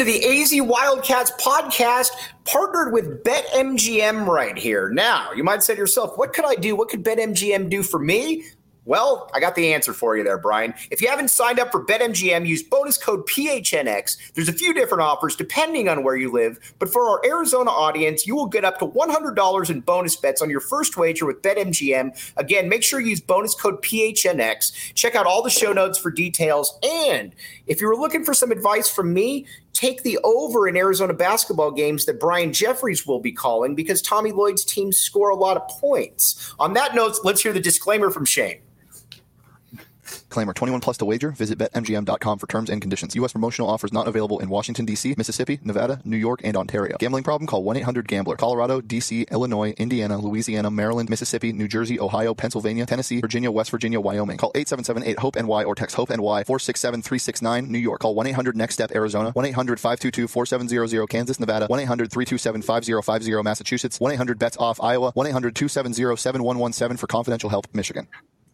to the AZ Wildcats podcast, partnered with BetMGM right here. Now, you might say to yourself, what could I do? What could BetMGM do for me? Well, I got the answer for you there, Brian. If you haven't signed up for BetMGM, use bonus code PHNX. There's a few different offers depending on where you live, but for our Arizona audience, you will get up to $100 in bonus bets on your first wager with BetMGM. Again, make sure you use bonus code PHNX. Check out all the show notes for details. And if you were looking for some advice from me, take the over in Arizona basketball games that Brian Jeffries will be calling because Tommy Lloyd's teams score a lot of points. On that note, let's hear the disclaimer from Shane. Disclaimer, 21 plus to wager. Visit BetMGM.com for terms and conditions. U.S. promotional offers not available in Washington, D.C., Mississippi, Nevada, New York, and Ontario. Gambling problem? Call 1-800-GAMBLER. Colorado, D.C., Illinois, Indiana, Louisiana, Maryland, Mississippi, New Jersey, Ohio, Pennsylvania, Tennessee, Virginia, West Virginia, Wyoming. Call 877-8-HOPE-NY or text HOPE-NY 467-369. New York. Call 1-800-NEXT-STEP, Arizona. 1-800-522-4700, Kansas, Nevada. 1-800-327-5050, Massachusetts. 1-800-BETS-OFF, Iowa. 1-800-270-7117 for confidential help, Michigan.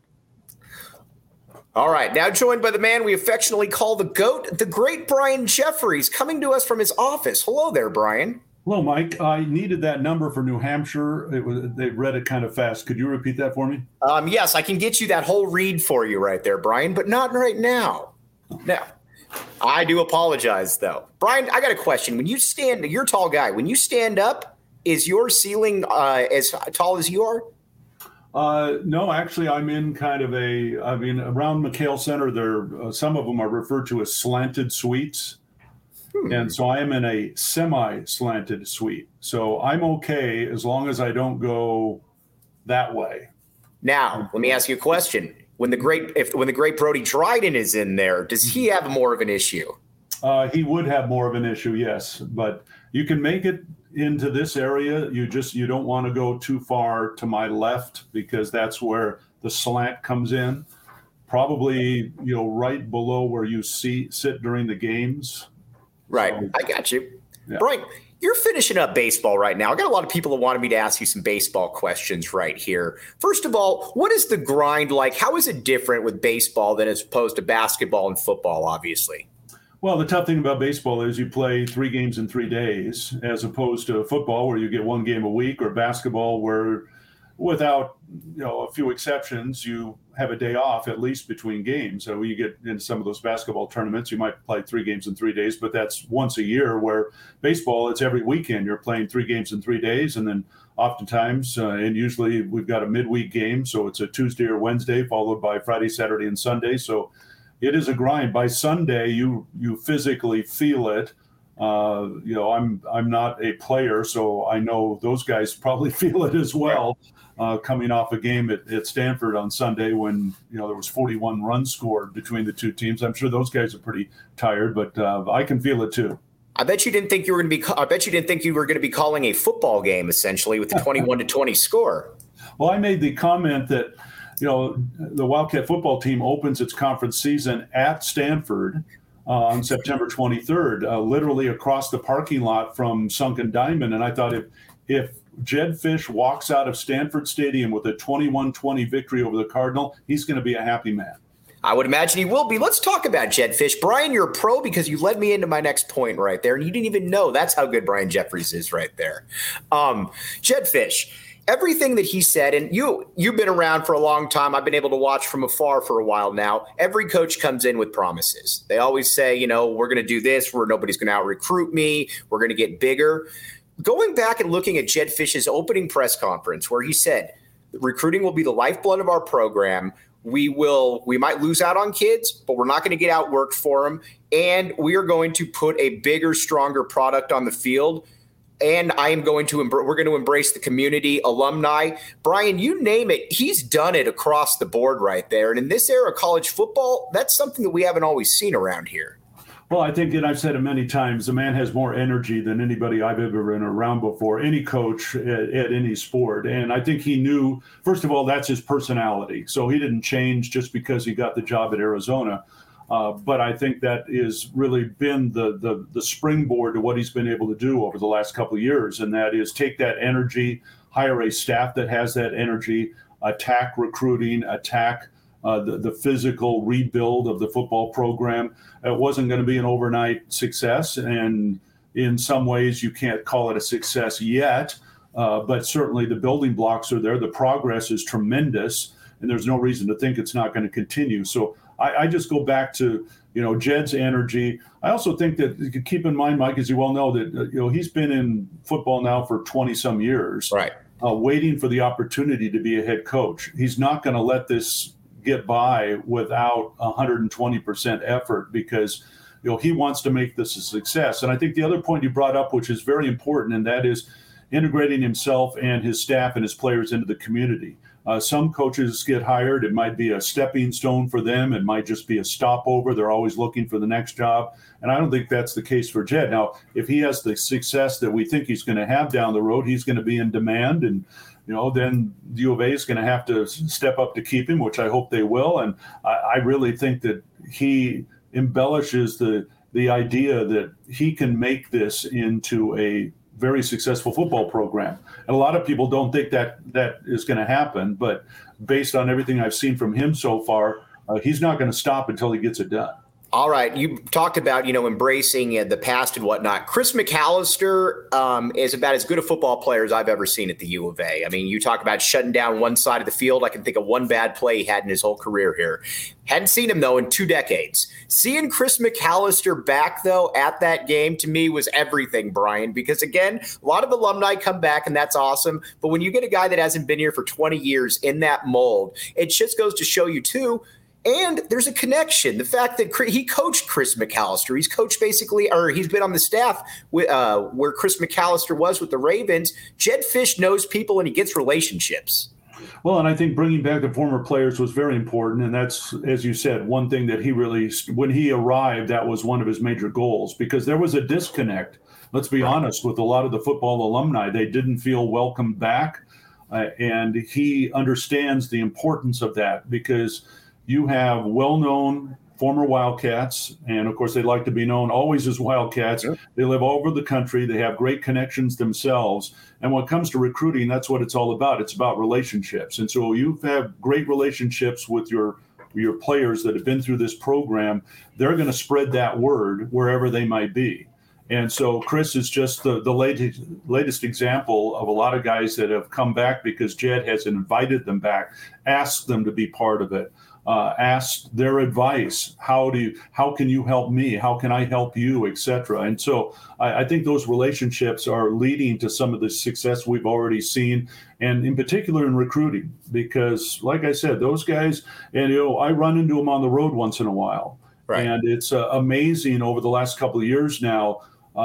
All right, now joined by the man we affectionately call the GOAT, the great Brian Jeffries, coming to us from his office. Hello there, Brian. Hello, Mike. I needed that number for New Hampshire. They read it kind of fast. Could you repeat that for me? Yes, I can get you that whole read for you right there, Brian, but not right now. Now, I do apologize, though. Brian, I got a question. When you stand, you're a tall guy. When you stand up, is your ceiling as tall as you are? No, actually, I'm in kind of around McHale Center, there, some of them are referred to as slanted suites. And so I am in a semi-slanted suite. So I'm okay as long as I don't go that way. Now, let me ask you a question. When the great Brody Dryden is in there, does he have more of an issue? He would have more of an issue, yes. But you can make it into this area. You don't want to go too far to my left because that's where the slant comes in. Probably, right below where you sit during the games. Right. So, I got you. Yeah. Brian, you're finishing up baseball right now. I got a lot of people that wanted me to ask you some baseball questions right here. First of all, what is the grind like? How is it different with baseball than as opposed to basketball and football, obviously? Well, the tough thing about baseball is you play 3 games in 3 days as opposed to football where you get 1 game a week, or basketball where, without a few exceptions, you have a day off at least between games. So you get into some of those basketball tournaments, you might play 3 games in 3 days, but that's once a year, where baseball, it's every weekend. You're playing 3 games in 3 days, and then oftentimes, and usually we've got a midweek game, so it's a Tuesday or Wednesday followed by Friday, Saturday, and Sunday. So it is a grind. By Sunday, you physically feel it. I'm not a player, so I know those guys probably feel it as well. Coming off a game at Stanford on Sunday when there was 41 runs scored between the two teams, I'm sure those guys are pretty tired, but I can feel it too. I bet you didn't think you were going to be. I bet you didn't think you were going to be calling a football game essentially with the 21-20 score. Well, I made the comment that the Wildcat football team opens its conference season at Stanford on September 23rd, literally across the parking lot from Sunken Diamond. And I thought if Jedd Fisch walks out of Stanford Stadium with a 21-20 victory over the Cardinal, he's going to be a happy man. I would imagine he will be. Let's talk about Jedd Fisch. Brian, you're a pro because you led me into my next point right there, and you didn't even know that's how good Brian Jeffries is right there. Jedd Fisch. Everything that he said, and you've been around for a long time. I've been able to watch from afar for a while now. Every coach comes in with promises. They always say, we're going to do this, where nobody's going to out-recruit me. We're going to get bigger. Going back and looking at Jedd Fisch's opening press conference where he said, recruiting will be the lifeblood of our program. We might lose out on kids, but we're not going to get outworked for them. And we are going to put a bigger, stronger product on the field. And we're going to embrace the community, alumni. Brian, you name it, he's done it across the board right there. And in this era of college football, that's something that we haven't always seen around here. Well, I think, and I've said it many times, the man has more energy than anybody I've ever been around before, any coach at any sport. And I think he knew, first of all, that's his personality. So he didn't change just because he got the job at Arizona. But I think that is really been the springboard to what he's been able to do over the last couple of years. And that is take that energy, hire a staff that has that energy, attack recruiting, attack the physical rebuild of the football program. It wasn't going to be an overnight success, and in some ways you can't call it a success yet, but certainly the building blocks are there. The progress is tremendous, and there's no reason to think it's not going to continue. So I just go back to, Jed's energy. I also think that you could keep in mind, Mike, as you well know, that he's been in football now for 20 some years, right? Waiting for the opportunity to be a head coach. He's not going to let this get by without 120% effort, because he wants to make this a success. And I think the other point you brought up, which is very important, and that is integrating himself and his staff and his players into the community. Some coaches get hired. It might be a stepping stone for them. It might just be a stopover. They're always looking for the next job. And I don't think that's the case for Jed. Now, if he has the success that we think he's going to have down the road, he's going to be in demand. And, then the U of A is going to have to step up to keep him, which I hope they will. And I really think that he embellishes the idea that he can make this into a very successful football program. And a lot of people don't think that is going to happen, but based on everything I've seen from him so far, he's not going to stop until he gets it done. All right. You talked about, embracing the past and whatnot. Chris McAllister is about as good a football player as I've ever seen at the U of A. I mean, you talk about shutting down one side of the field. I can think of one bad play he had in his whole career here. Hadn't seen him, though, in 2 decades. Seeing Chris McAllister back, though, at that game, to me, was everything, Brian, because, again, a lot of alumni come back, and that's awesome. But when you get a guy that hasn't been here for 20 years in that mold, it just goes to show you, too, and there's a connection. The fact that he coached Chris McAllister. He's coached basically, or he's been on the staff where Chris McAllister was with the Ravens. Jedd Fisch knows people and he gets relationships. Well, and I think bringing back the former players was very important. And that's, as you said, one thing that he really, when he arrived, that was one of his major goals, because there was a disconnect, let's be honest, with a lot of the football alumni. They didn't feel welcomed back. And he understands the importance of that, because you have well-known former Wildcats, and of course they like to be known always as Wildcats. Yep. They live all over the country. They have great connections themselves. And when it comes to recruiting, that's what it's all about. It's about relationships. And so you have great relationships with your players that have been through this program. They're going to spread that word wherever they might be. And so Chris is just the latest example of a lot of guys that have come back because Jed has invited them back, asked them to be part of it. Asked their advice. How can you help me? How can I help you, etc. And so I think those relationships are leading to some of the success we've already seen, and in particular in recruiting, because like I said, those guys, and I run into them on the road once in a while. Right. And it's amazing over the last couple of years now,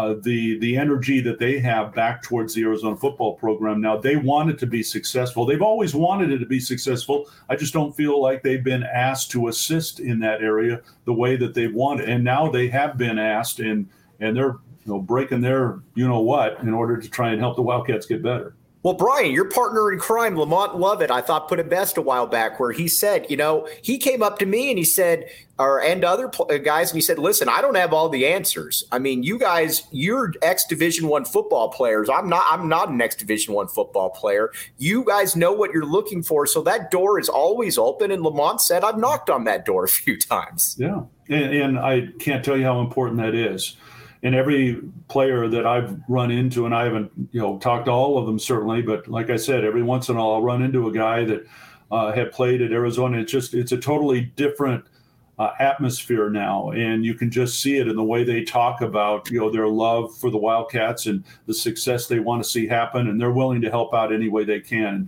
the energy that they have back towards the Arizona football program. Now, they want it to be successful. They've always wanted it to be successful. I just don't feel like they've been asked to assist in that area the way that they wanted. And now they have been asked, and they're breaking their what in order to try and help the Wildcats get better. Well, Brian, your partner in crime, Lamont Lovett, I thought put it best a while back, where he said, he came up to me and he said, and other guys, and he said, listen, I don't have all the answers. I mean, you guys, you're ex-Division I football players. I'm not an ex-Division I football player. You guys know what you're looking for. So that door is always open. And Lamont said, I've knocked on that door a few times. Yeah. And I can't tell you how important that is. And every player that I've run into, and I haven't, talked to all of them certainly, but like I said, every once in a while I'll run into a guy that had played at Arizona. It's a totally different atmosphere now, and you can just see it in the way they talk about, their love for the Wildcats and the success they want to see happen, and they're willing to help out any way they can.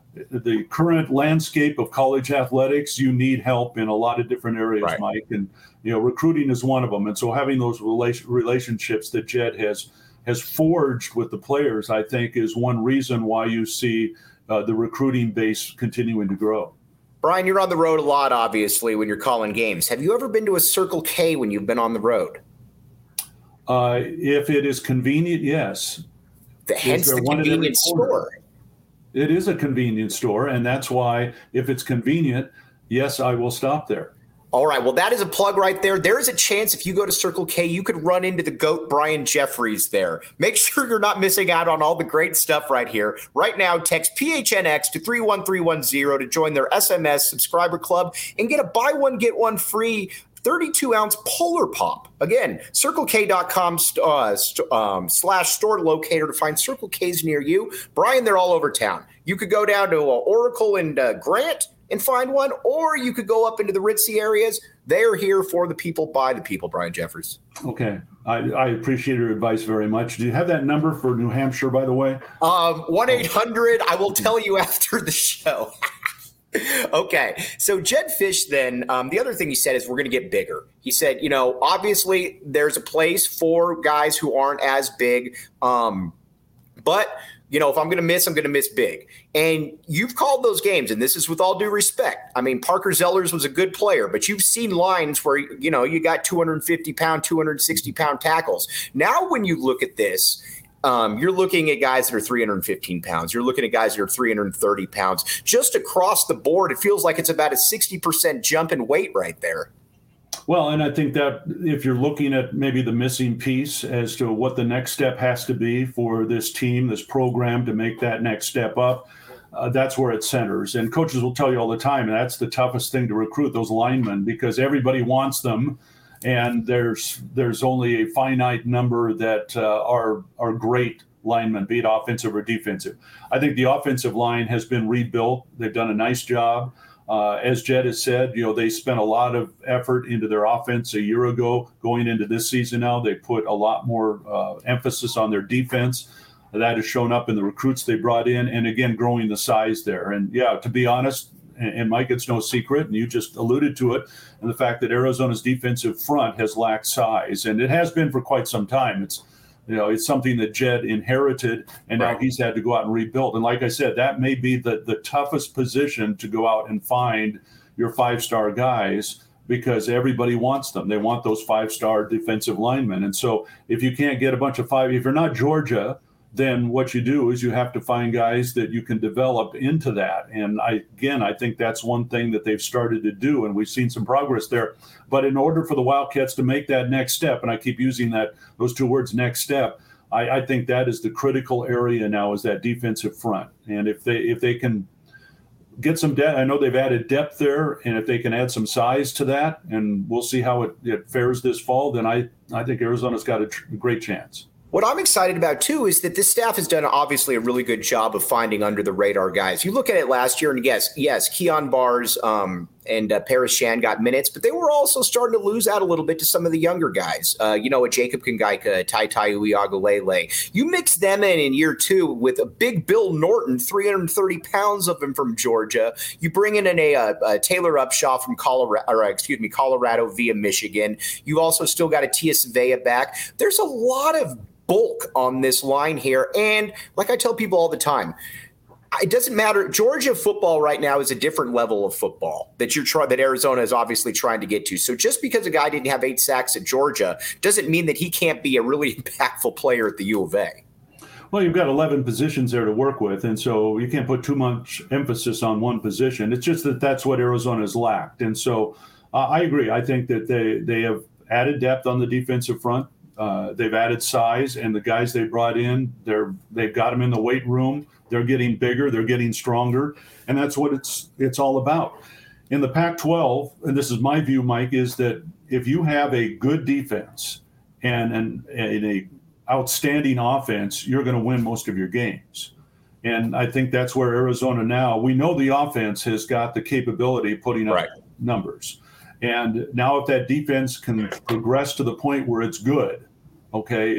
The current landscape of college athletics, you need help in a lot of different areas, right, Mike, and recruiting is one of them. And so having those relationships that Jed has forged with the players, I think, is one reason why you see the recruiting base continuing to grow. Brian, you're on the road a lot, obviously, when you're calling games. Have you ever been to a Circle K when you've been on the road? If it is convenient, yes. Hence the convenience store. It is a convenience store, and that's why if it's convenient, yes, I will stop there. All right. Well, that is a plug right there. There is a chance if you go to Circle K, you could run into the GOAT Brian Jeffries there. Make sure you're not missing out on all the great stuff right here. Right now, text PHNX to 31310 to join their SMS subscriber club and get a buy one, get one free 32-ounce Polar Pop. Again, CircleK.com / store locator to find Circle K's near you. Brian, they're all over town. You could go down to Oracle and Grant and find one, or you could go up into the ritzy areas. They're here for the people, by the people, Brian Jeffries. Okay. I appreciate your advice very much. Do you have that number for New Hampshire, by the way? 1-800. I will tell you after the show. Okay. So Jedd Fisch then, the other thing he said is we're going to get bigger. He said, obviously there's a place for guys who aren't as big, but if I'm going to miss big. And you've called those games, and this is with all due respect. I mean, Parker Zellers was a good player, but you've seen lines where, you got 250-pound, 260-pound tackles. Now when you look at this, you're looking at guys that are 315 pounds. You're looking at guys that are 330 pounds. Just across the board, it feels like it's about a 60% jump in weight right there. Well, and I think that if you're looking at maybe the missing piece as to what the next step has to be for this team, this program to make that next step up, that's where it centers. And coaches will tell you all the time, that's the toughest thing to recruit, those linemen, because everybody wants them. And there's only a finite number that are great linemen, be it offensive or defensive. I think the offensive line has been rebuilt. They've done a nice job. As Jedd has said, they spent a lot of effort into their offense a year ago. Going into this season now, they put a lot more emphasis on their defense. That has shown up in the recruits they brought in, and again, growing the size there. And yeah, to be honest, and Mike, it's no secret, and you just alluded to it, and the fact that Arizona's defensive front has lacked size, and it has been for quite some time. It's something that Jedd inherited, and now he's had to go out and rebuild. And like I said, that may be the toughest position to go out and find your five-star guys, because everybody wants them. They want those five-star defensive linemen. And so if you can't get a bunch of five, if you're not Georgia, then what you do is you have to find guys that you can develop into that. And I think that's one thing that they've started to do, and we've seen some progress there. But in order for the Wildcats to make that next step, and I keep using those two words, next step, I think that is the critical area now, is that defensive front. And if they can get some depth, I know they've added depth there, and if they can add some size to that, and we'll see how it fares this fall, then I think Arizona's got a great chance. What I'm excited about, too, is that this staff has done obviously a really good job of finding under the radar guys. You look at it last year, and yes, Keon Bars and Paris Shan got minutes, but they were also starting to lose out a little bit to some of the younger guys. A Jacob Kangaika, Tai Uiagalelei. You mix them in year two with a big Bill Norton, 330 pounds of him from Georgia. You bring in a Taylor Upshaw from Colorado via Michigan. You also still got a Tia Savea back. There's a lot of bulk on this line here. And like I tell people all the time, it doesn't matter. Georgia football right now is a different level of football that Arizona is obviously trying to get to. So just because a guy didn't have 8 sacks at Georgia doesn't mean that he can't be a really impactful player at the U of A. Well, you've got 11 positions there to work with, and so you can't put too much emphasis on one position. It's just that's what Arizona's lacked. And so I agree. I think that they have added depth on the defensive front. They've added size, and the guys they brought in, they've got them in the weight room. They're getting bigger, they're getting stronger, and that's what it's all about. In the Pac-12, and this is my view, Mike, is that if you have a good defense and a outstanding offense, you're going to win most of your games. And I think that's where Arizona now, we know the offense has got the capability of putting up numbers. And now if that defense can progress to the point where it's good, okay,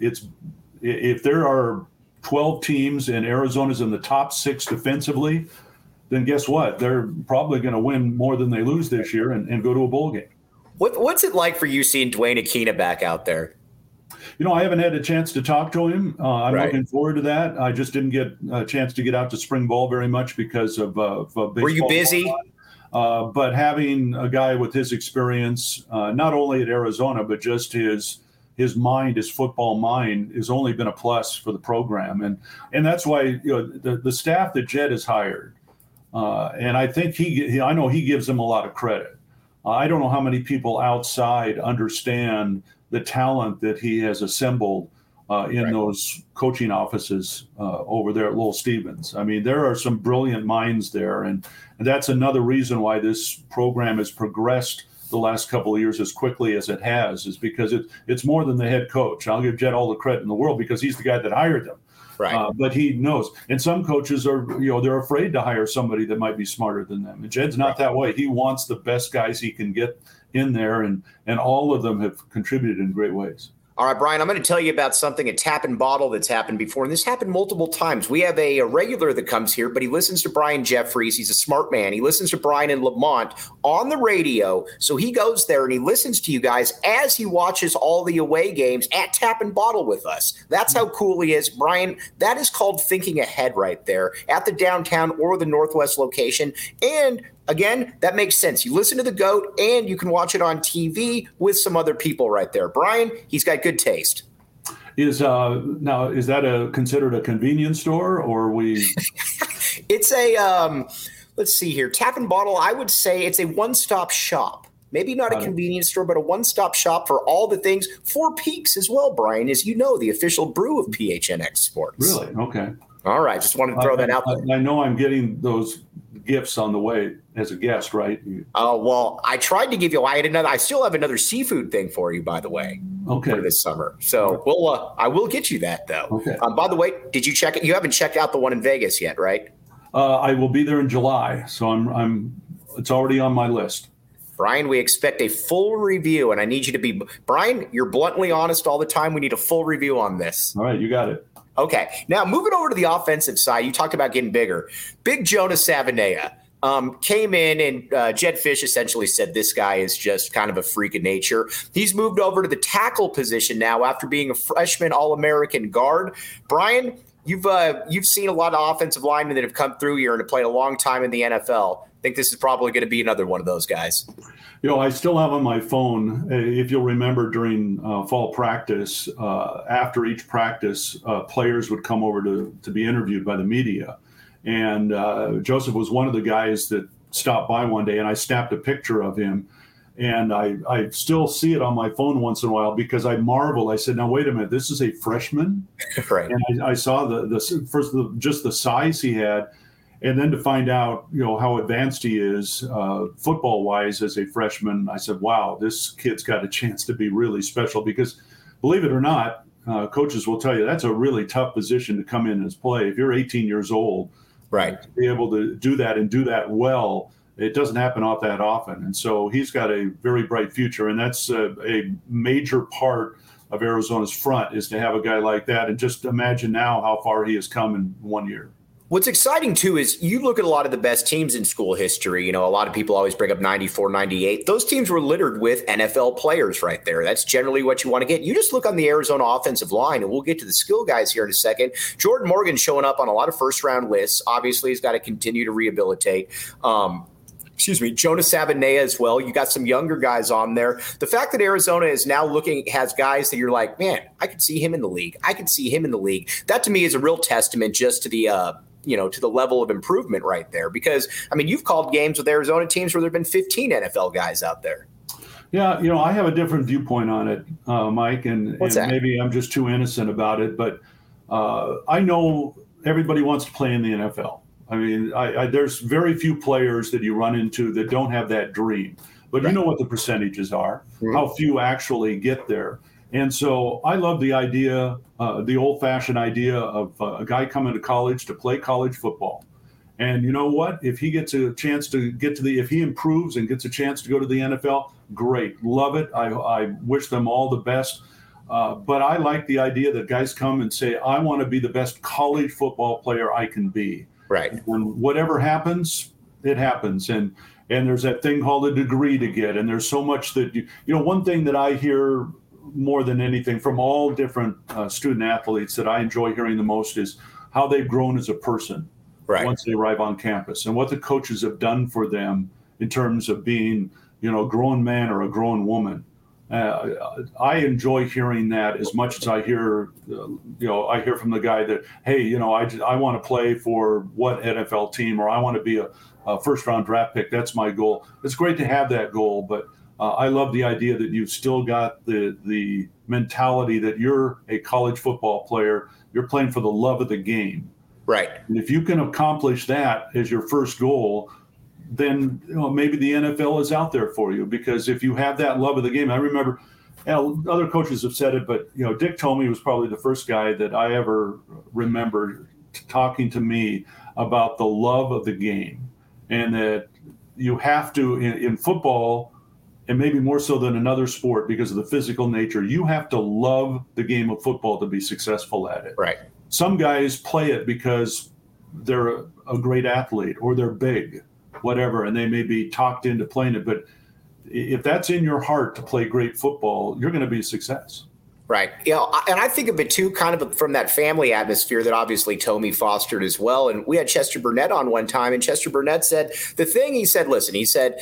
if there are 12 teams and Arizona's in the top 6 defensively, then guess what? They're probably going to win more than they lose this year and go to a bowl game. What's it like for you seeing Dwayne Akina back out there? I haven't had a chance to talk to him. I'm looking forward to that. I just didn't get a chance to get out to spring ball very much because of baseball. Were you busy? But having a guy with his experience, not only at Arizona, but just his mind, his football mind, has only been a plus for the program. And that's why the staff that Jedd has hired, and I think I know he gives them a lot of credit. I don't know how many people outside understand the talent that he has assembled in those coaching offices over there at Lowell Stevens. I mean, there are some brilliant minds there, and that's another reason why this program has progressed the last couple of years as quickly as it has, is because it's more than the head coach. I'll give Jed all the credit in the world because he's the guy that hired them. Right. But he knows. And some coaches are, they're afraid to hire somebody that might be smarter than them. And Jed's not that way. He wants the best guys he can get in there, and all of them have contributed in great ways. All right, Brian, I'm going to tell you about something, a tap and bottle that's happened before, and this happened multiple times. We have a regular that comes here, but he listens to Brian Jeffries. He's a smart man. He listens to Brian and Lamont on the radio, so he goes there and he listens to you guys as he watches all the away games at Tap and Bottle with us. That's how cool he is. Brian, that is called thinking ahead right there at the downtown or the Northwest location, and again, that makes sense. You listen to the GOAT and you can watch it on TV with some other people right there. Brian, he's got good taste. Is that considered a convenience store, or we? It's a let's see here. Tap and Bottle, I would say it's a one-stop shop. Maybe not a convenience store, but a one-stop shop for all the things. Four Peaks as well, Brian, as you know, the official brew of PHNX Sports. Really? Okay. All right. Just wanted to throw that out there. I know I'm getting those gifts on the way as a guest, right? Oh, well, I tried to give you. I still have another seafood thing for you, by the way. Okay. For this summer, so I will get you that though. Okay. By the way, did you check it? You haven't checked out the one in Vegas yet, right? I will be there in July, so it's already on my list. Brian, we expect a full review, and I need you to be Brian. You're bluntly honest all the time. We need a full review on this. All right, you got it. Okay. Now, moving over to the offensive side, you talked about getting bigger. Big Jonas Savaiinaea came in, and Jedd Fisch essentially said this guy is just kind of a freak of nature. He's moved over to the tackle position now after being a freshman All-American guard. Brian, you've seen a lot of offensive linemen that have come through here and have played a long time in the NFL. I think this is probably going to be another one of those guys. I still have on my phone, if you'll remember during fall practice, after each practice, players would come over to be interviewed by the media. And Joseph was one of the guys that stopped by one day, and I snapped a picture of him. And I still see it on my phone once in a while because I marvel. I said, now, wait a minute, this is a freshman? Right. And I saw just the size he had. And then to find out, how advanced he is football-wise as a freshman, I said, wow, this kid's got a chance to be really special because, believe it or not, coaches will tell you that's a really tough position to come in and play. If you're 18 years old, right, to be able to do that and do that well, it doesn't happen off that often. And so he's got a very bright future, and that's a major part of Arizona's front is to have a guy like that. And just imagine now how far he has come in 1 year. What's exciting, too, is you look at a lot of the best teams in school history. A lot of people always bring up 94, 98. Those teams were littered with NFL players right there. That's generally what you want to get. You just look on the Arizona offensive line, and we'll get to the skill guys here in a second. Jordan Morgan showing up on a lot of first-round lists. Obviously, he's got to continue to rehabilitate. Jonas Savaiinaea as well. You got some younger guys on there. The fact that Arizona is now has guys that you're like, man, I could see him in the league. That to me is a real testament just to the to the level of improvement right there. Because, you've called games with Arizona teams where there have been 15 NFL guys out there. Yeah, I have a different viewpoint on it, Mike, and maybe I'm just too innocent about it. But I know everybody wants to play in the NFL. There's very few players that you run into that don't have that dream. But you know what the percentages are, how few actually get there. And so I love the idea, the old-fashioned idea of a guy coming to college to play college football. And you know what? If he gets a chance to if he improves and gets a chance to go to the NFL, great. Love it. I wish them all the best. But I like the idea that guys come and say, I want to be the best college football player I can be. Right. And whatever happens, it happens. And there's that thing called a degree to get. And there's so much that, one thing that I hear more than anything from all different student athletes that I enjoy hearing the most is how they've grown as a person once they arrive on campus and what the coaches have done for them in terms of being, a grown man or a grown woman. I enjoy hearing that as much as I hear, I hear from the guy that, hey, I want to play for what NFL team, or I want to be a first-round draft pick. That's my goal. It's great to have that goal, but I love the idea that you've still got the mentality that you're a college football player. You're playing for the love of the game. Right. And if you can accomplish that as your first goal, then maybe the NFL is out there for you, because if you have that love of the game. I remember, other coaches have said it, but Dick Tomey was probably the first guy that I ever remember talking to me about the love of the game, and that you have to in football, and maybe more so than another sport because of the physical nature, you have to love the game of football to be successful at it. Right. Some guys play it because they're a great athlete or they're big, whatever, and they may be talked into playing it. But if that's in your heart to play great football, you're going to be a success. Right. And I think of it too, kind of from that family atmosphere that obviously Tomey fostered as well. And we had Chester Burnett on one time, and Chester Burnett said he said,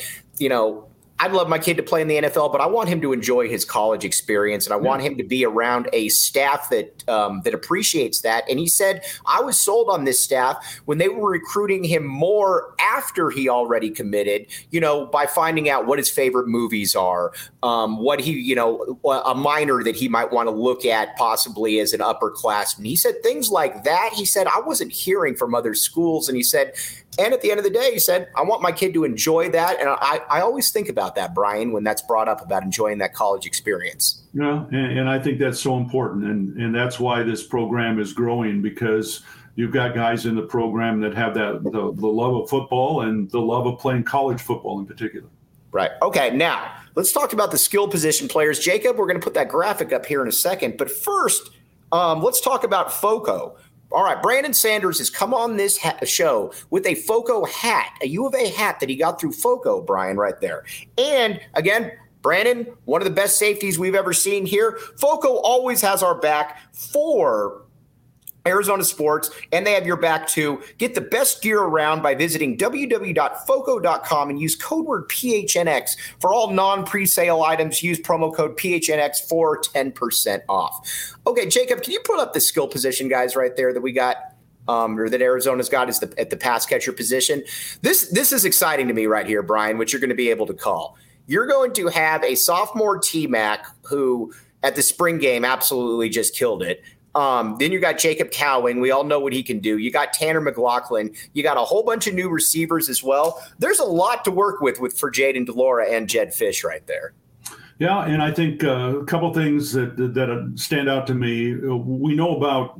I'd love my kid to play in the NFL, but I want him to enjoy his college experience, and I want him to be around a staff that appreciates that. And he said, I was sold on this staff when they were recruiting him more after he already committed, by finding out what his favorite movies are, what he, a minor that he might want to look at possibly as an upperclassman. He said things like that. He said, I wasn't hearing from other schools. And he said, and at the end of the day, he said, I want my kid to enjoy that. And I always think about that, Brian, when that's brought up about enjoying that college experience. Yeah, and I think that's so important. And that's why this program is growing, because you've got guys in the program that have the love of football and the love of playing college football in particular. Right. Okay, now let's talk about the skill position players. Jacob, we're going to put that graphic up here in a second. But first, let's talk about FOCO. All right, Brandon Sanders has come on this show with a FOCO hat, a U of A hat that he got through FOCO, Brian, right there. And again, Brandon, one of the best safeties we've ever seen here. FOCO always has our back for Arizona sports, and they have your back too. Get the best gear around by visiting www.foco.com and use code word PHNX for all non-presale items. Use promo code PHNX for 10% off. Okay, Jacob, can you put up the skill position guys right there that we got, or that Arizona's got at the pass catcher position? This is exciting to me right here, Brian, which you're going to be able to call. You're going to have a sophomore T-Mac who at the spring game absolutely just killed it. Then you got Jacob Cowing. We all know what he can do. You got Tanner McLaughlin. You got a whole bunch of new receivers as well. There's a lot to work with for Jaden DeLora and Jedd Fisch right there. Yeah, and I think a couple things that stand out to me. We know about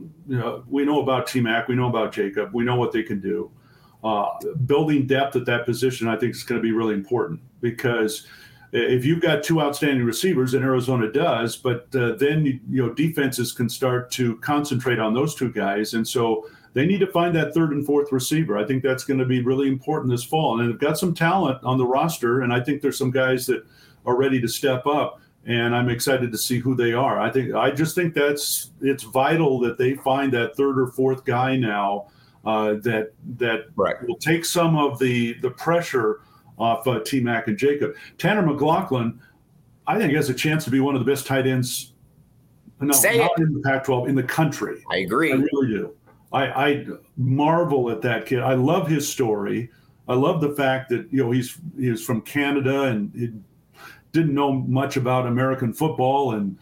T-Mac. We know about Jacob. We know what they can do. Building depth at that position, I think, is going to be really important, because if you've got two outstanding receivers, and Arizona does, but then defenses can start to concentrate on those two guys, and so they need to find that third and fourth receiver. I think that's going to be really important this fall, and they've got some talent on the roster, and I think there's some guys that are ready to step up, and I'm excited to see who they are. I just think it's vital that they find that third or fourth guy now that right. will take some of the pressure off T-Mac and Jacob. Tanner McLaughlin, I think, has a chance to be one of the best tight ends. No, not in the Pac-12, in the country. I agree. I really do. I marvel at that kid. I love his story. I love the fact that he's from Canada and he didn't know much about American football and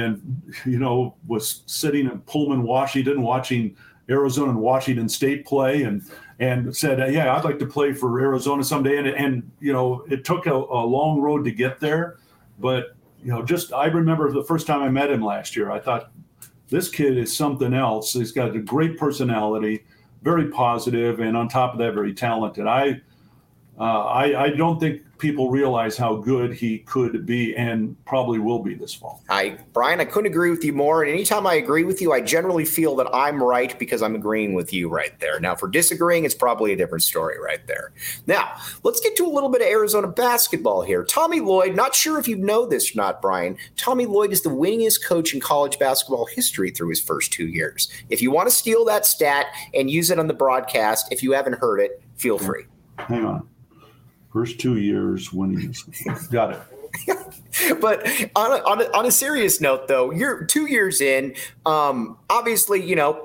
was sitting in Pullman, Washington, watching Arizona and Washington State play and said, yeah, I'd like to play for Arizona someday. And it took a long road to get there. But, I remember the first time I met him last year, I thought, this kid is something else. He's got a great personality, very positive, and on top of that, very talented. I don't think people realize how good he could be and probably will be this fall. Brian, I couldn't agree with you more. And anytime I agree with you, I generally feel that I'm right because I'm agreeing with you right there. Now, for disagreeing, it's probably a different story right there. Now, let's get to a little bit of Arizona basketball here. Tommy Lloyd, not sure if you know this or not, Brian. Tommy Lloyd is the winningest coach in college basketball history through his first 2 years. If you want to steal that stat and use it on the broadcast, if you haven't heard it, feel free. Hang on. First 2 years winning. Got it. But on a serious note, though, you're 2 years in. Obviously,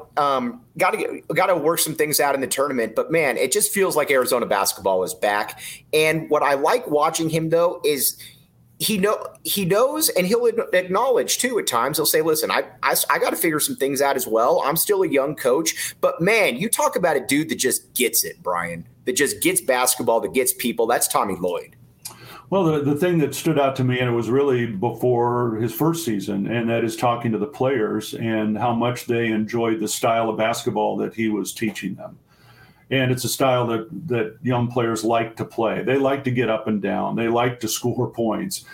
got to work some things out in the tournament. But man, it just feels like Arizona basketball is back. And what I like watching him, though, is he knows, and he'll acknowledge too at times. He'll say, "Listen, I got to figure some things out as well. I'm still a young coach." But man, you talk about a dude that just gets it, Brian. That just gets basketball, that gets people. That's Tommy Lloyd. Well, the thing that stood out to me, and it was really before his first season, and that is talking to the players and how much they enjoyed the style of basketball that he was teaching them. And it's a style that young players like to play. They like to get up and down. They like to score points.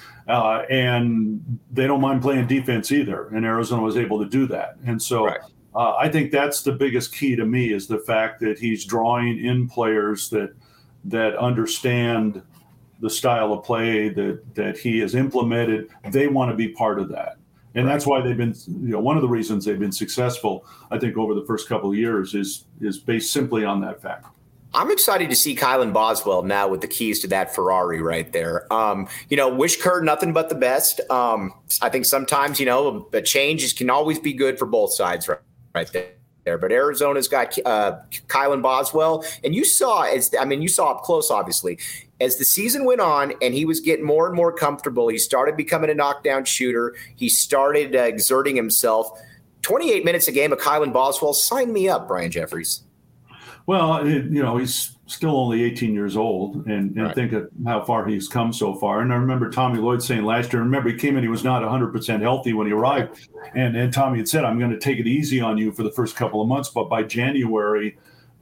And they don't mind playing defense either. And Arizona was able to do that. And so right. I think that's the biggest key to me, is the fact that he's drawing in players that understand the style of play that he has implemented. They want to be part of that. And that's why they've been, one of the reasons they've been successful, I think, over the first couple of years is based simply on that fact. I'm excited to see Kylan Boswell now with the keys to that Ferrari right there. Wish Kurt nothing but the best. I think sometimes, a change can always be good for both sides right there. But Arizona's got Kylan Boswell, and you saw up close, obviously. As the season went on and he was getting more and more comfortable, he started becoming a knockdown shooter. He started exerting himself. 28 minutes a game of Kylan Boswell. Sign me up, Brian Jeffries. Well, he's still only 18 years old, and right. Think of how far he's come so far. And I remember Tommy Lloyd saying last year, he came in, he was not 100% healthy when he arrived. And Tommy had said, I'm going to take it easy on you for the first couple of months, but by January,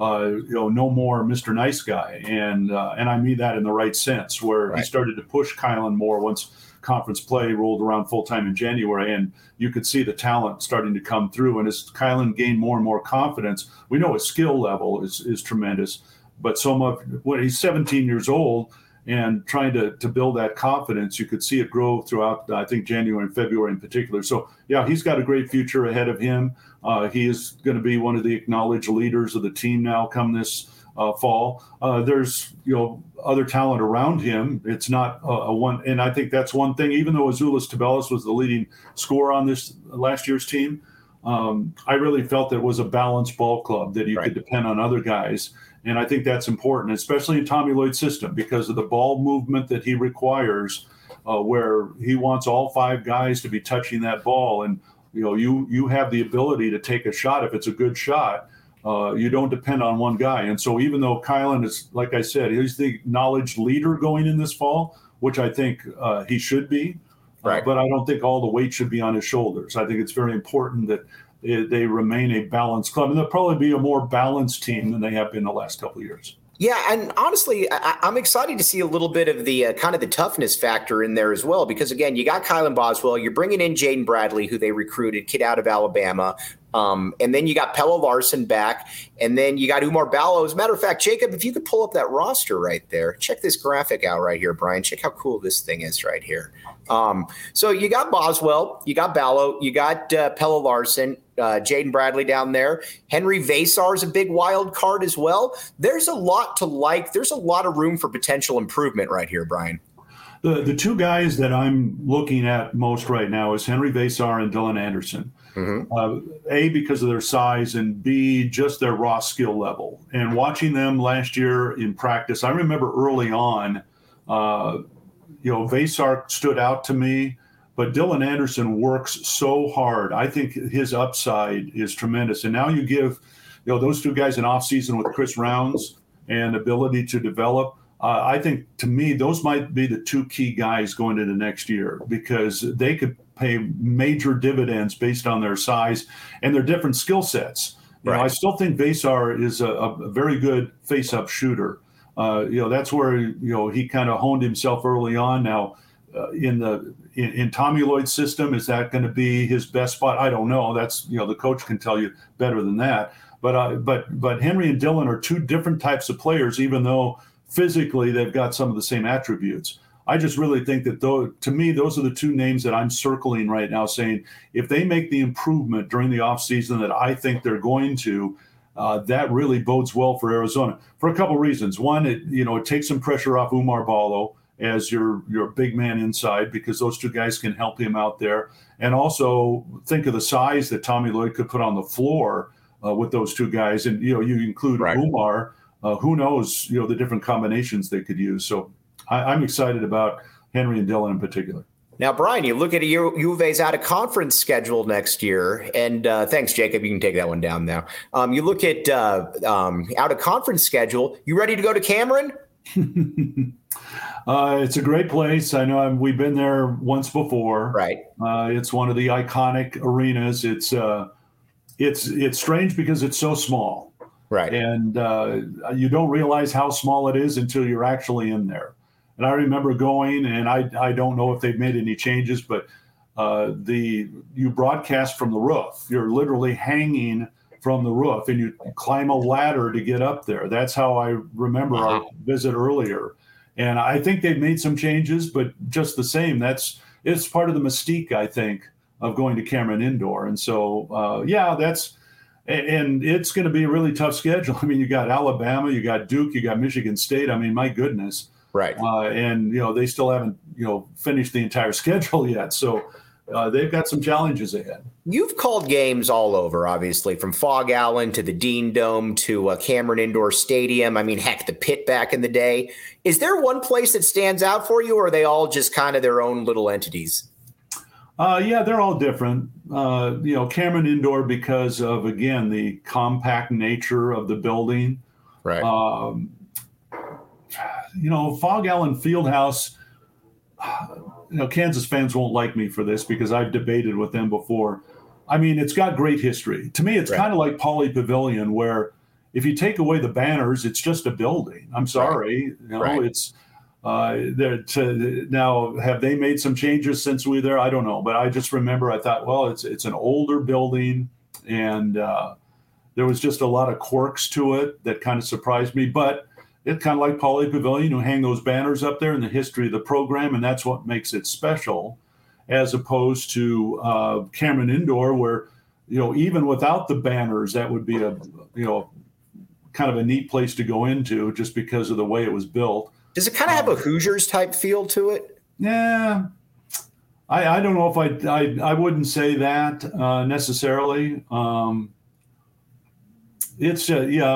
no more Mr. Nice Guy. And I mean that in the right sense, where right. He started to push Kylan more once conference play rolled around full time in January, and you could see the talent starting to come through. And as Kylan gained more and more confidence, we know his skill level is tremendous, but so much when he's 17 years old and trying to build that confidence, you could see it grow throughout, I think, January and February in particular. So, yeah, he's got a great future ahead of him. He is going to be one of the acknowledged leaders of the team now come this fall. There's, other talent around him. It's not a one. And I think that's one thing, even though Azuolas Tubelis was the leading scorer on this last year's team, I really felt that it was a balanced ball club, that you right. could depend on other guys. And I think that's important, especially in Tommy Lloyd's system, because of the ball movement that he requires, where he wants all five guys to be touching that ball. And, you have the ability to take a shot if it's a good shot. You don't depend on one guy. And so even though Kylan is, like I said, he's the acknowledged leader going in this fall, which I think he should be, right. But I don't think all the weight should be on his shoulders. I think it's very important that they remain a balanced club, and they'll probably be a more balanced team than they have been the last couple of years. Yeah, and honestly, I'm excited to see a little bit of the kind of the toughness factor in there as well, because, again, you got Kylan Boswell, you're bringing in Jaden Bradley, who they recruited, kid out of Alabama, and then you got Pelle Larsson back, and then you got Oumar Ballo. As a matter of fact, Jacob, if you could pull up that roster right there, check this graphic out right here, Brian. Check how cool this thing is right here. So you got Boswell, you got Ballo, you got Pelle Larsson, Jaden Bradley down there. Henry Vesar is a big wild card as well. There's a lot to like. There's a lot of room for potential improvement right here, Brian. The two guys that I'm looking at most right now is Henry Vesar and Dylan Anderson. Mm-hmm. A, because of their size, and B, just their raw skill level. And watching them last year in practice, I remember early on, Vesar stood out to me, but Dylan Anderson works so hard. I think his upside is tremendous. And now you give those two guys an offseason with Chris Rounds and ability to develop. I think, to me, those might be the two key guys going into next year, because they could pay major dividends based on their size and their different skill sets. Right. I still think Vesar is a very good face-up shooter. That's where he kind of honed himself early on. Now, in Tommy Lloyd's system, is that going to be his best spot? I don't know. That's the coach can tell you better than that. But Henry and Dylan are two different types of players, even though physically they've got some of the same attributes. I just really think that, to me, those are the two names that I'm circling right now, saying if they make the improvement during the offseason that I think they're going to, that really bodes well for Arizona for a couple of reasons. One, it takes some pressure off Oumar Ballo, as your big man inside, because those two guys can help him out there. And also think of the size that Tommy Lloyd could put on the floor with those two guys. And, you include Umar, who knows, the different combinations they could use. So I'm excited about Henry and Dylan in particular. Now, Brian, you look at U of A's out-of-conference schedule next year, and thanks, Jacob. You can take that one down now. You look at out-of-conference schedule. You ready to go to Cameron? It's a great place. I know we've been there once before. Right. It's one of the iconic arenas. It's strange because it's so small. Right. And you don't realize how small it is until you're actually in there. And I remember going, and I don't know if they've made any changes, but you broadcast from the roof. You're literally hanging from the roof, and you climb a ladder to get up there. That's how I remember our visit earlier. And I think they've made some changes, but just the same, it's part of the mystique, I think, of going to Cameron Indoor. And so, and it's going to be a really tough schedule. I mean, you got Alabama, you got Duke, you got Michigan State. I mean, my goodness. Right. And, they still haven't, finished the entire schedule yet. So they've got some challenges ahead. You've called games all over, obviously, from Fog Allen to the Dean Dome to Cameron Indoor Stadium. I mean, heck, the Pit back in the day. Is there one place that stands out for you, or are they all just kind of their own little entities? Yeah, they're all different. Cameron Indoor because of, again, the compact nature of the building. Right. Fog Allen Fieldhouse, Kansas fans won't like me for this because I've debated with them before. I mean, it's got great history. To me, it's kind of like Pauley Pavilion, where if you take away the banners, it's just a building. I'm sorry. It's now, have they made some changes since we were there? I don't know. But I just remember I thought, well, it's an older building, and there was just a lot of quirks to it that kind of surprised me. But it's kind of like Pauley Pavilion, who hang those banners up there in the history of the program, and that's what makes it special, as opposed to Cameron Indoor, where, even without the banners, that would be a kind of a neat place to go into just because of the way it was built. Does it kind of have a Hoosiers type feel to it? Yeah, I don't know if I wouldn't say that necessarily. It's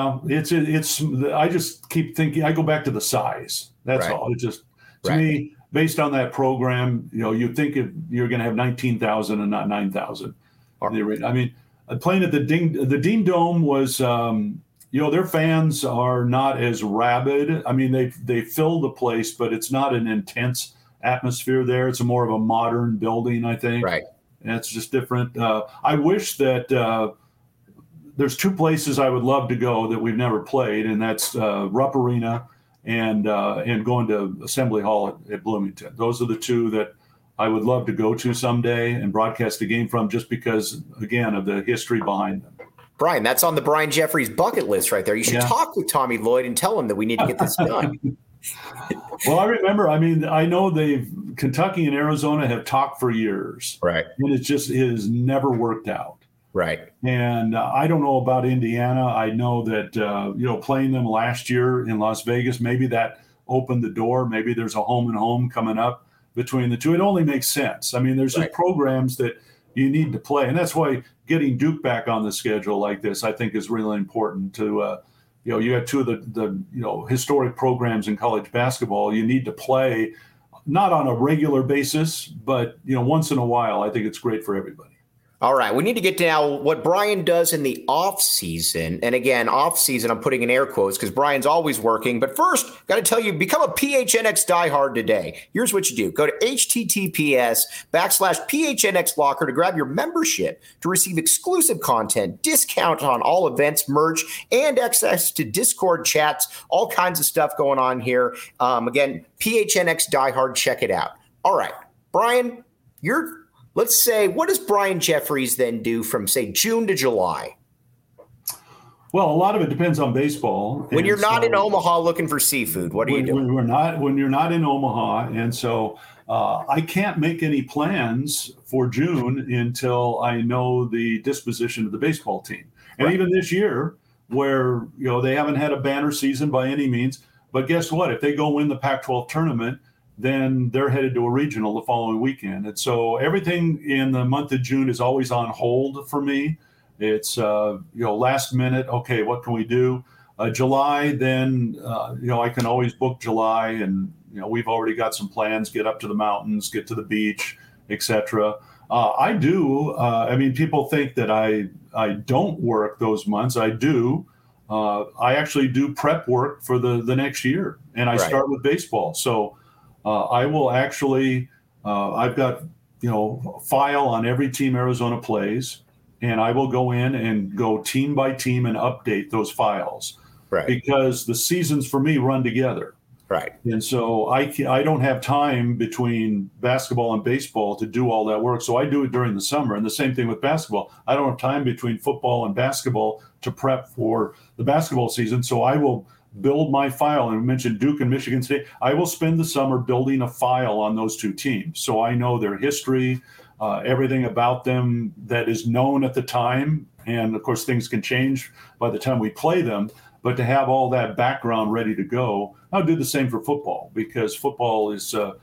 I just keep thinking, I go back to the size. That's all. It just, to me, based on that program, you think you're going to have 19,000 and not 9,000. I mean, playing at the Dean Dome was, their fans are not as rabid. I mean, they fill the place, but it's not an intense atmosphere there. It's more of a modern building, I think. Right. And it's just different. I wish that there's two places I would love to go that we've never played, and that's Rupp Arena and going to Assembly Hall at Bloomington. Those are the two that I would love to go to someday and broadcast a game from, just because, again, of the history behind them. Brian, that's on the Brian Jeffries bucket list right there. You should talk with Tommy Lloyd and tell him that we need to get this done. Well, I remember, I know Kentucky and Arizona have talked for years. Right. And it has never worked out. Right. And I don't know about Indiana. I know that, playing them last year in Las Vegas, maybe that opened the door. Maybe there's a home and home coming up between the two. It only makes sense. I mean, there's just programs that you need to play. And that's why getting Duke back on the schedule like this, I think, is really important to, you have two of the historic programs in college basketball. You need to play not on a regular basis, but, once in a while. I think it's great for everybody. All right, we need to get to now what Brian does in the off season. And again, off season, I'm putting in air quotes because Brian's always working. But first, got to tell you, become a PHNX diehard today. Here's what you do. Go to https:/PHNX Locker to grab your membership to receive exclusive content, discount on all events, merch, and access to Discord chats, all kinds of stuff going on here. Again, PHNX diehard, check it out. All right, Brian, let's say, what does Brian Jeffries then do from, say, June to July? Well, a lot of it depends on baseball. When you're not in Omaha looking for seafood, what are you doing? When you're not in Omaha. And so I can't make any plans for June until I know the disposition of the baseball team. And even this year, where they haven't had a banner season by any means, but guess what? If they go win the Pac-12 tournament, then they're headed to a regional the following weekend. And so everything in the month of June is always on hold for me. It's, last minute. Okay, what can we do? July, then, I can always book July, and, we've already got some plans, get up to the mountains, get to the beach, etc. I do. People think that I don't work those months. I do. I actually do prep work for the next year, and I start with baseball. So I will actually, I've got, a file on every team Arizona plays, and I will go in and go team by team and update those files. Right. Because the seasons for me run together. Right. And so I don't have time between basketball and baseball to do all that work. So I do it during the summer. And the same thing with basketball. I don't have time between football and basketball to prep for the basketball season. So I will build my file. And we mentioned Duke and Michigan State. I will spend the summer building a file on those two teams. So I know their history, everything about them that is known at the time. And of course, things can change by the time we play them. But to have all that background ready to go, I'll do the same for football, because football is a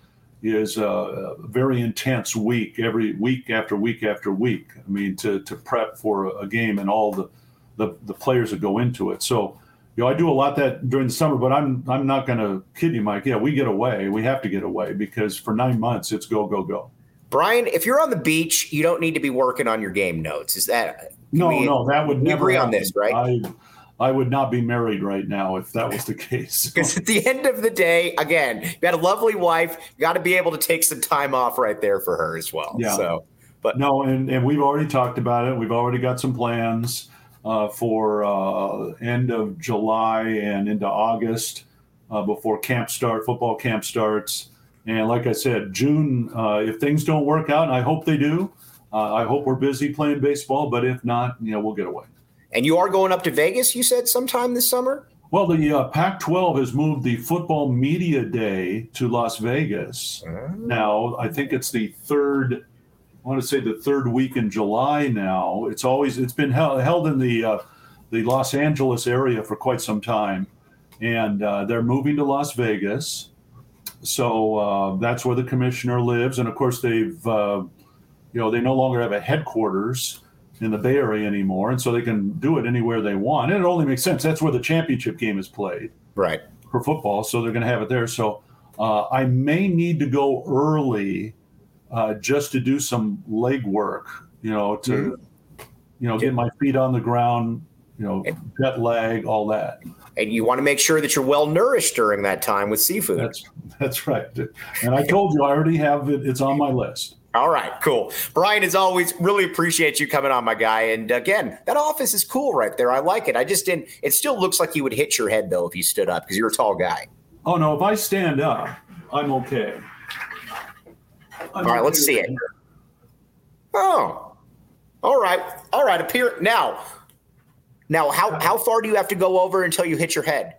very intense week, every week after week after week. I mean, to prep for a game and all the players that go into it. So, I do a lot that during the summer, but I'm not going to kid you, Mike. Yeah, we get away. We have to get away, because for 9 months it's go, go, go. Brian, if you're on the beach, you don't need to be working on your game notes. Is that no? That would never agree happen. On this, right? I would not be married right now if that was the case. Because at the end of the day, again, you got a lovely wife. You got to be able to take some time off right there for her as well. Yeah. So, but no, and we've already talked about it. We've already got some plans for end of July and into August before football camp starts. And like I said, June, if things don't work out, and I hope they do, I hope we're busy playing baseball. But if not, we'll get away. And you are going up to Vegas, you said, sometime this summer? Well, the Pac-12 has moved the Football Media Day to Las Vegas. Now, I think it's the third week in July now. It's been held in the Los Angeles area for quite some time. And they're moving to Las Vegas. So that's where the commissioner lives. And, of course, they no longer have a headquarters in the Bay Area anymore, and so they can do it anywhere they want. And it only makes sense. That's where the championship game is played, right, for football. So they're going to have it there. So I may need to go early just to do some leg work, to get my feet on the ground, jet lag, all that. And you want to make sure that you're well nourished during that time with seafood. That's right. And I told you I already have it. It's on my list. All right, cool. Brian, as always, really appreciate you coming on, my guy. And again, that office is cool right there. I like it. It still looks like you would hit your head, though, if you stood up, because you're a tall guy. Oh, no, if I stand up, I'm okay. All right, let's see it. Oh, all right. Now, how far do you have to go over until you hit your head?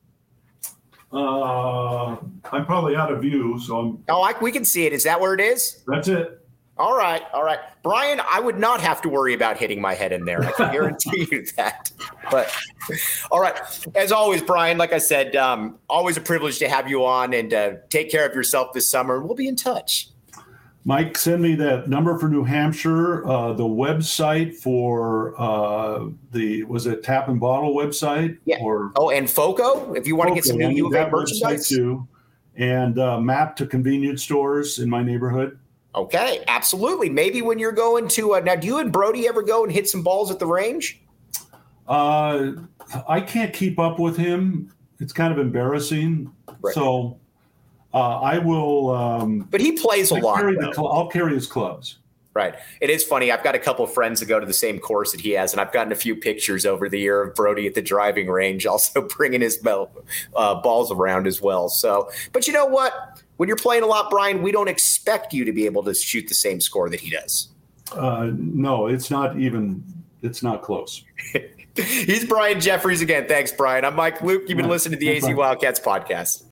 I'm probably out of view, so we can see it. Is that where it is? That's it. All right. Brian, I would not have to worry about hitting my head in there. I can guarantee you that. But all right. As always, Brian, like I said, always a privilege to have you on, and take care of yourself this summer. We'll be in touch. Mike, send me that number for New Hampshire, the website for was it Tap and Bottle website? Yeah. And FOCO, if you want to get some new U of A merchandise too, and map to convenience stores in my neighborhood. Okay, absolutely. Maybe when you're going to now, do you and Brody ever go and hit some balls at the range? I can't keep up with him. It's kind of embarrassing. Right. So. I will. But he plays a lot. I'll carry his clubs. Right. It is funny. I've got a couple of friends that go to the same course that he has, and I've gotten a few pictures over the year of Brody at the driving range, also bringing his balls around as well. So, but you know what? When you're playing a lot, Brian, we don't expect you to be able to shoot the same score that he does. No, it's not even. It's not close. He's Brian Jeffries again. Thanks, Brian. I'm Mike Luke. You've been listening to the AZ Wildcats podcast.